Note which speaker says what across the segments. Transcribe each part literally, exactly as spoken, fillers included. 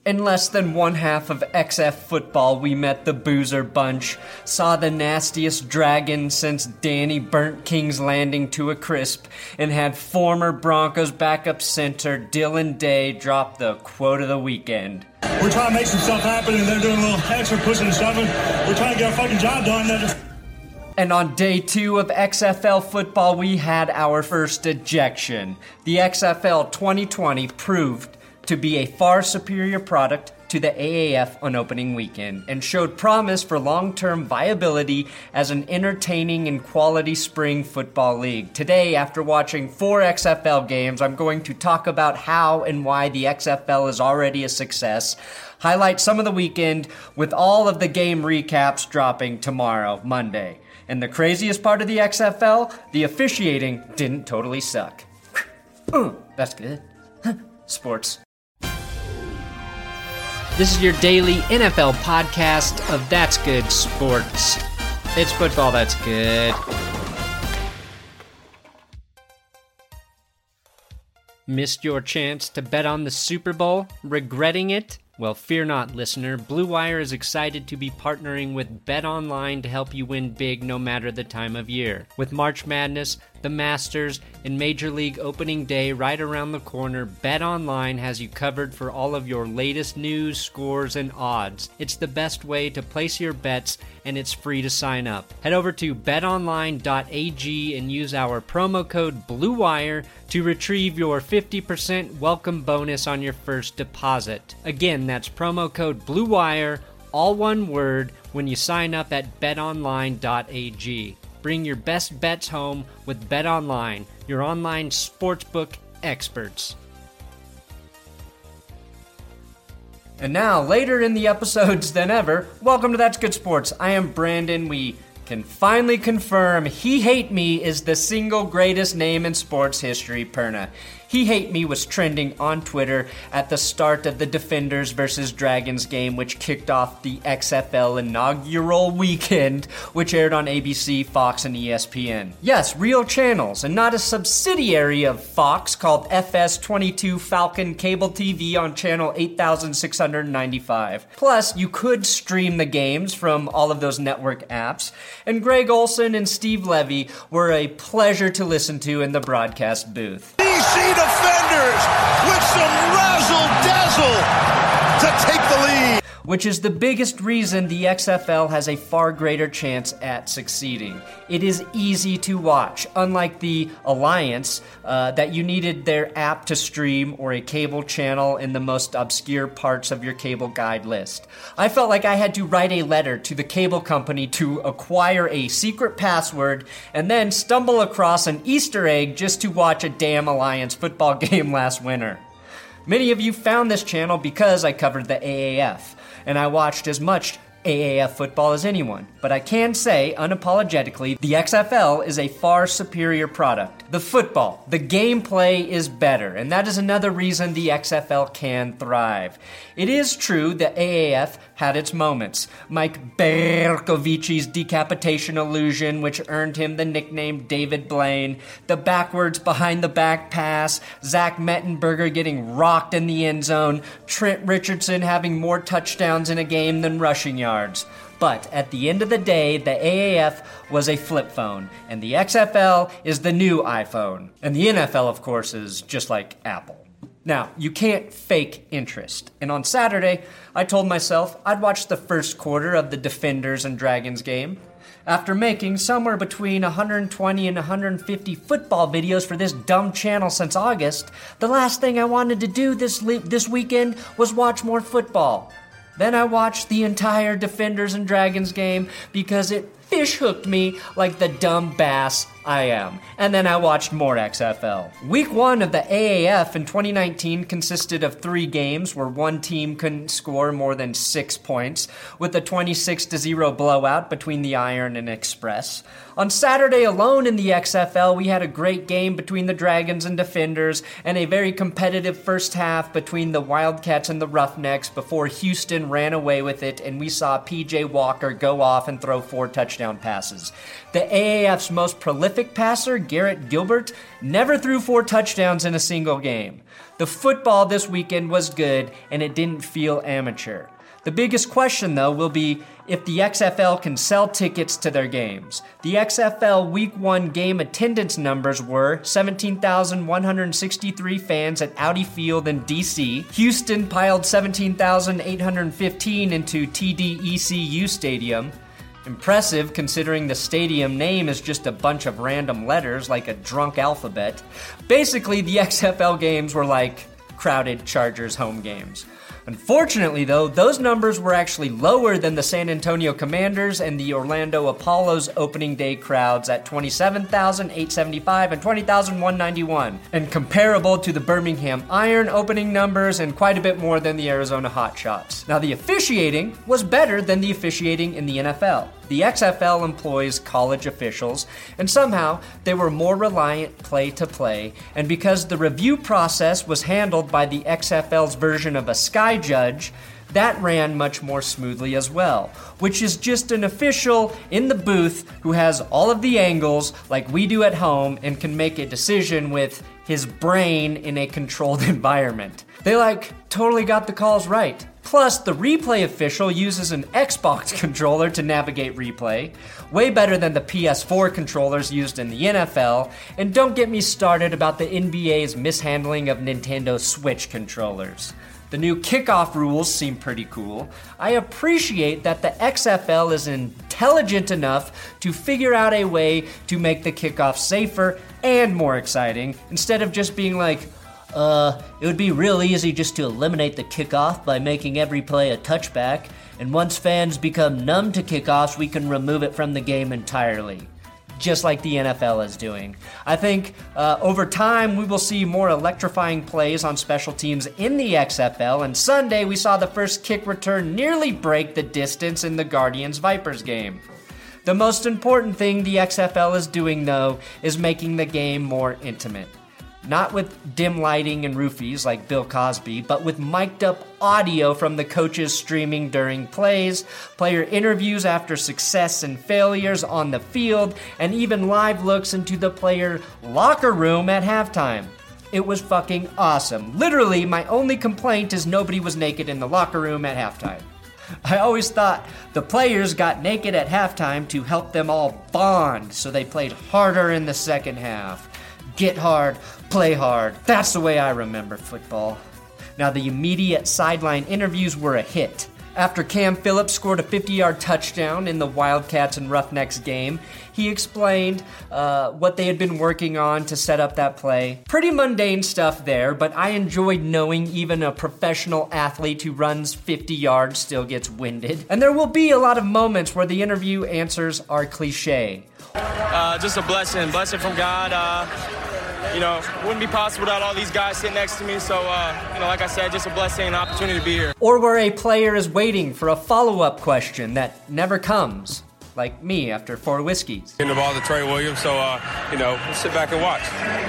Speaker 1: In less than one half of X F football, we met the Boozer Bunch, saw the nastiest dragon since Danny burnt King's Landing to a crisp, and had former Broncos backup center Dylan Day drop the quote of the weekend.
Speaker 2: We're trying to make some stuff happen, and they're doing a little extra pushing and shoving. We're trying to get our fucking job done. They're just...
Speaker 1: And on day two of X F L football, we had our first ejection. The X F L twenty twenty proved to be a far superior product to the A A F on opening weekend and showed promise for long-term viability as an entertaining and quality spring football league. Today, after watching four X F L games, I'm going to talk about how and why the X F L is already a success, highlight some of the weekend with all of the game recaps dropping tomorrow, Monday. And the craziest part of the X F L, the officiating didn't totally suck. That's good. Sports. This is your daily N F L podcast of That's Good Sports. It's football that's good. Missed your chance to bet on the Super Bowl? Regretting it? Well, fear not, listener. Blue Wire is excited to be partnering with BetOnline to help you win big no matter the time of year. With March Madness, the Masters, and Major League Opening Day right around the corner, BetOnline has you covered for all of your latest news, scores, and odds. It's the best way to place your bets, and it's free to sign up. Head over to bet online dot a g and use our promo code BLUEWIRE to retrieve your fifty percent welcome bonus on your first deposit. Again, that's promo code BLUEWIRE, all one word, when you sign up at bet online dot a g. Bring your best bets home with BetOnline, your online sportsbook experts. And now, later in the episodes than ever, welcome to That's Good Sports. I am Brandon. We can finally confirm He Hate Me is the single greatest name in sports history, Perna. He Hate Me was trending on Twitter at the start of the Defenders versus Dragons game, which kicked off the X F L inaugural weekend, which aired on A B C, Fox, and E S P N. Yes, real channels, and not a subsidiary of Fox called F S twenty-two Falcon Cable T V on channel eight thousand six hundred ninety-five. Plus, you could stream the games from all of those network apps, and Greg Olson and Steve Levy were a pleasure to listen to in the broadcast booth.
Speaker 3: D C Defenders with some razzle-dazzle to take the lead.
Speaker 1: Which is the biggest reason the X F L has a far greater chance at succeeding. It is easy to watch, unlike the Alliance, uh, that you needed their app to stream or a cable channel in the most obscure parts of your cable guide list. I felt like I had to write a letter to the cable company to acquire a secret password and then stumble across an Easter egg just to watch a damn Alliance football game last winter. Many of you found this channel because I covered the A A F, and I watched as much A A F football as anyone. But I can say, unapologetically, the X F L is a far superior product. The football, the gameplay is better, and that is another reason the X F L can thrive. It is true that A A F had its moments. Mike Berkovici's decapitation illusion, which earned him the nickname David Blaine, the backwards behind-the-back pass, Zach Mettenberger getting rocked in the end zone, Trent Richardson having more touchdowns in a game than rushing yards. But at the end of the day, the A A F was a flip phone, and the X F L is the new iPhone. And the N F L, of course, is just like Apple. Now, you can't fake interest. And on Saturday, I told myself I'd watch the first quarter of the Defenders and Dragons game. After making somewhere between one hundred twenty and one hundred fifty football videos for this dumb channel since August, the last thing I wanted to do this le- this weekend was watch more football. Then I watched the entire Defenders and Dragons game because it fish hooked me like the dumb bass I am. And then I watched more X F L. Week one of the A A F in twenty nineteen consisted of three games where one team couldn't score more than six points, with a twenty-six to zero blowout between the Iron and Express. On Saturday alone in the X F L, we had a great game between the Dragons and Defenders, and a very competitive first half between the Wildcats and the Roughnecks before Houston ran away with it, and we saw P J Walker go off and throw four touchdown passes. The A A F's most prolific prolific passer, Garrett Gilbert, never threw four touchdowns in a single game. The football this weekend was good, and it didn't feel amateur. The biggest question, though, will be if the X F L can sell tickets to their games. The X F L Week one game attendance numbers were seventeen thousand one hundred sixty-three fans at Audi Field in D C. Houston piled seventeen thousand eight hundred fifteen into T D E C U Stadium. Impressive considering the stadium name is just a bunch of random letters like a drunk alphabet. Basically, the X F L games were like crowded Chargers home games. Unfortunately, though, those numbers were actually lower than the San Antonio Commanders and the Orlando Apollo's opening day crowds at twenty-seven thousand eight hundred seventy-five and twenty thousand one hundred ninety-one, and comparable to the Birmingham Iron opening numbers and quite a bit more than the Arizona Hotshots. Now, the officiating was better than the officiating in the N F L. The X F L employs college officials, and somehow they were more reliant play to play, and because the review process was handled by the X F L's version of a sky judge, that ran much more smoothly as well, which is just an official in the booth who has all of the angles like we do at home and can make a decision with his brain in a controlled environment. They like totally got the calls right. Plus, the replay official uses an Xbox controller to navigate replay, way better than the P S four controllers used in the N F L, and don't get me started about the N B A's mishandling of Nintendo Switch controllers. The new kickoff rules seem pretty cool. I appreciate that the X F L is intelligent enough to figure out a way to make the kickoff safer and more exciting, instead of just being like, Uh, it would be real easy just to eliminate the kickoff by making every play a touchback, and once fans become numb to kickoffs, we can remove it from the game entirely. Just like the N F L is doing. I think uh, over time we will see more electrifying plays on special teams in the X F L, and Sunday we saw the first kick return nearly break the distance in the Guardians-Vipers game. The most important thing the X F L is doing, though, is making the game more intimate. Not with dim lighting and roofies like Bill Cosby, but with mic'd up audio from the coaches streaming during plays, player interviews after success and failures on the field, and even live looks into the player locker room at halftime. It was fucking awesome. Literally, my only complaint is nobody was naked in the locker room at halftime. I always thought the players got naked at halftime to help them all bond, so they played harder in the second half. Get hard, play hard. That's the way I remember football. Now, the immediate sideline interviews were a hit. After Cam Phillips scored a fifty-yard touchdown in the Wildcats and Roughnecks game, he explained uh, what they had been working on to set up that play. Pretty mundane stuff there, but I enjoyed knowing even a professional athlete who runs fifty yards still gets winded. And there will be a lot of moments where the interview answers are cliche.
Speaker 4: Uh, just a blessing, blessing from God. Uh, you know, wouldn't be possible without all these guys sitting next to me. So, uh, you know, like I said, just a blessing and an opportunity to be here.
Speaker 1: Or where a player is waiting for a follow-up question that never comes, like me after four whiskeys.
Speaker 5: Getting the ball to Trey Williams, so, uh, you know, we'll sit back and watch.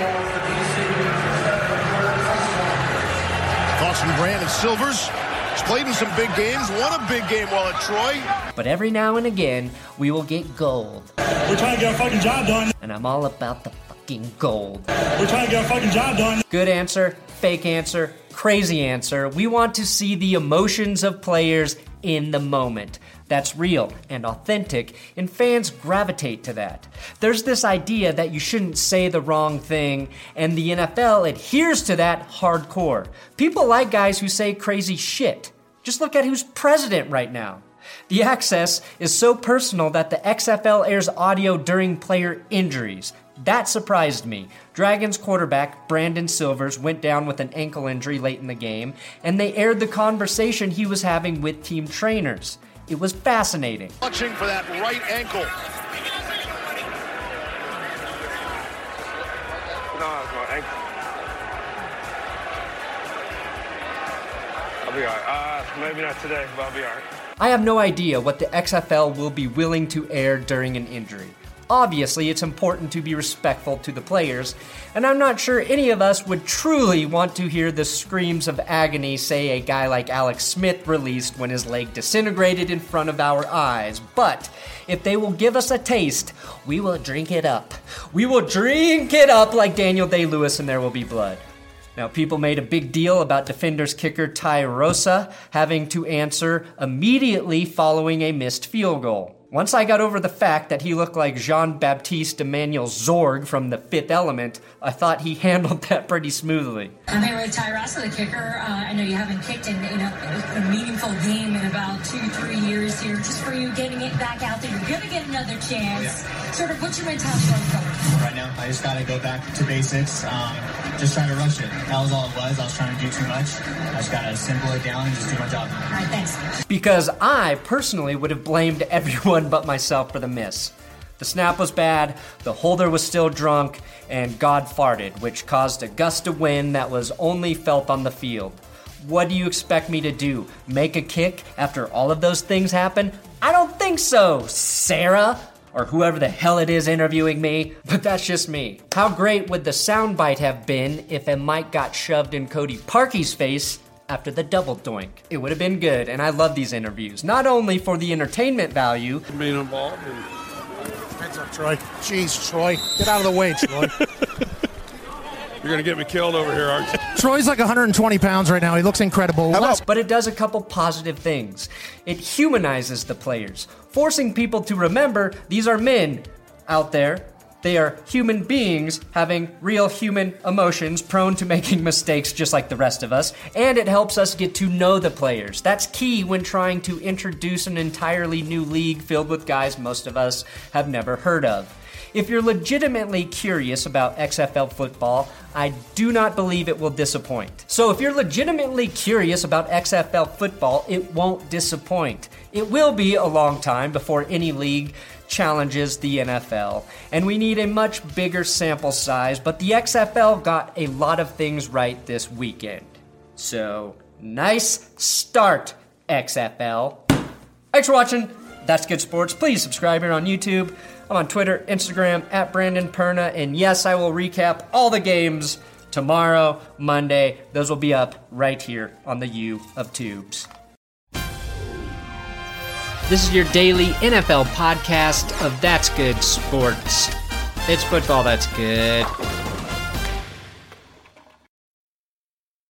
Speaker 3: Dawson Brandon Silvers has played in some big games, won a big game while at Troy.
Speaker 1: But every now and again, we will get gold.
Speaker 2: We're trying to get our fucking job done.
Speaker 1: And I'm all about the fucking gold.
Speaker 2: We're trying to get our fucking job done.
Speaker 1: Good answer, fake answer, crazy answer. We want to see the emotions of players in the moment. That's real and authentic, and fans gravitate to that. There's this idea that you shouldn't say the wrong thing, and the N F L adheres to that hardcore. People like guys who say crazy shit. Just look at who's president right now. The access is so personal that the X F L airs audio during player injuries. That surprised me. Dragons quarterback Brandon Silvers went down with an ankle injury late in the game, and they aired the conversation he was having with team trainers. It was fascinating.
Speaker 3: Watching for that right ankle.
Speaker 5: No, it's my ankle. I'll be all right. Uh, maybe not today, but I'll be all right.
Speaker 1: I have no idea what the X F L will be willing to air during an injury. Obviously, it's important to be respectful to the players, and I'm not sure any of us would truly want to hear the screams of agony, say, a guy like Alex Smith released when his leg disintegrated in front of our eyes. But if they will give us a taste, we will drink it up. We will drink it up like Daniel Day-Lewis, and there will be blood. Now, people made a big deal about Defenders kicker Ty Rosa having to answer immediately following a missed field goal. Once I got over the fact that he looked like Jean-Baptiste Emmanuel Zorg from The Fifth Element, I thought he handled that pretty smoothly.
Speaker 6: I'm here with Ty Rosa, the kicker. Uh, I know you haven't kicked in, in a, a meaningful game in about two, three years here. Just for you getting it back out there, you're going to get another chance. Yeah. Sort of, what's your mentality going forward?
Speaker 7: Right now, I just got to go back to basics. Um, just trying to rush it. That was all it was. I was trying to do too much. I just got to simple it down and just do my job.
Speaker 6: All right, thanks.
Speaker 1: Because I personally would have blamed everyone but myself for the miss. The snap was bad, the holder was still drunk, and God farted, which caused a gust of wind that was only felt on the field. What do you expect me to do? Make a kick after all of those things happen? I don't think so, Sarah! Or whoever the hell it is interviewing me, but that's just me. How great would the soundbite have been if a mic got shoved in Cody Parkey's face after the double doink? It would have been good, and I love these interviews, not only for the entertainment value.
Speaker 8: Being involved. And...
Speaker 9: Hands up, Troy. Jeez, Troy. Get out of the way, Troy.
Speaker 8: You're going to get me killed over here, aren't you?
Speaker 9: Troy's like one hundred twenty pounds right now. He looks incredible.
Speaker 1: But it does a couple positive things. It humanizes the players, forcing people to remember these are men out there. They are human beings having real human emotions, prone to making mistakes just like the rest of us, and it helps us get to know the players. That's key when trying to introduce an entirely new league filled with guys most of us have never heard of. If you're legitimately curious about X F L football, I do not believe it will disappoint. So if you're legitimately curious about X F L football, it won't disappoint. It will be a long time before any league challenges the N F L, and we need a much bigger sample size, but the X F L got a lot of things right this weekend. So, nice start, X F L. Thanks for watching. That's Good Sports. Please subscribe here on YouTube. I'm on Twitter, Instagram, at Brandon Perna, and yes, I will recap all the games tomorrow, Monday. Those will be up right here on the U of Tubes. This is your daily N F L podcast of That's Good Sports. It's football that's good.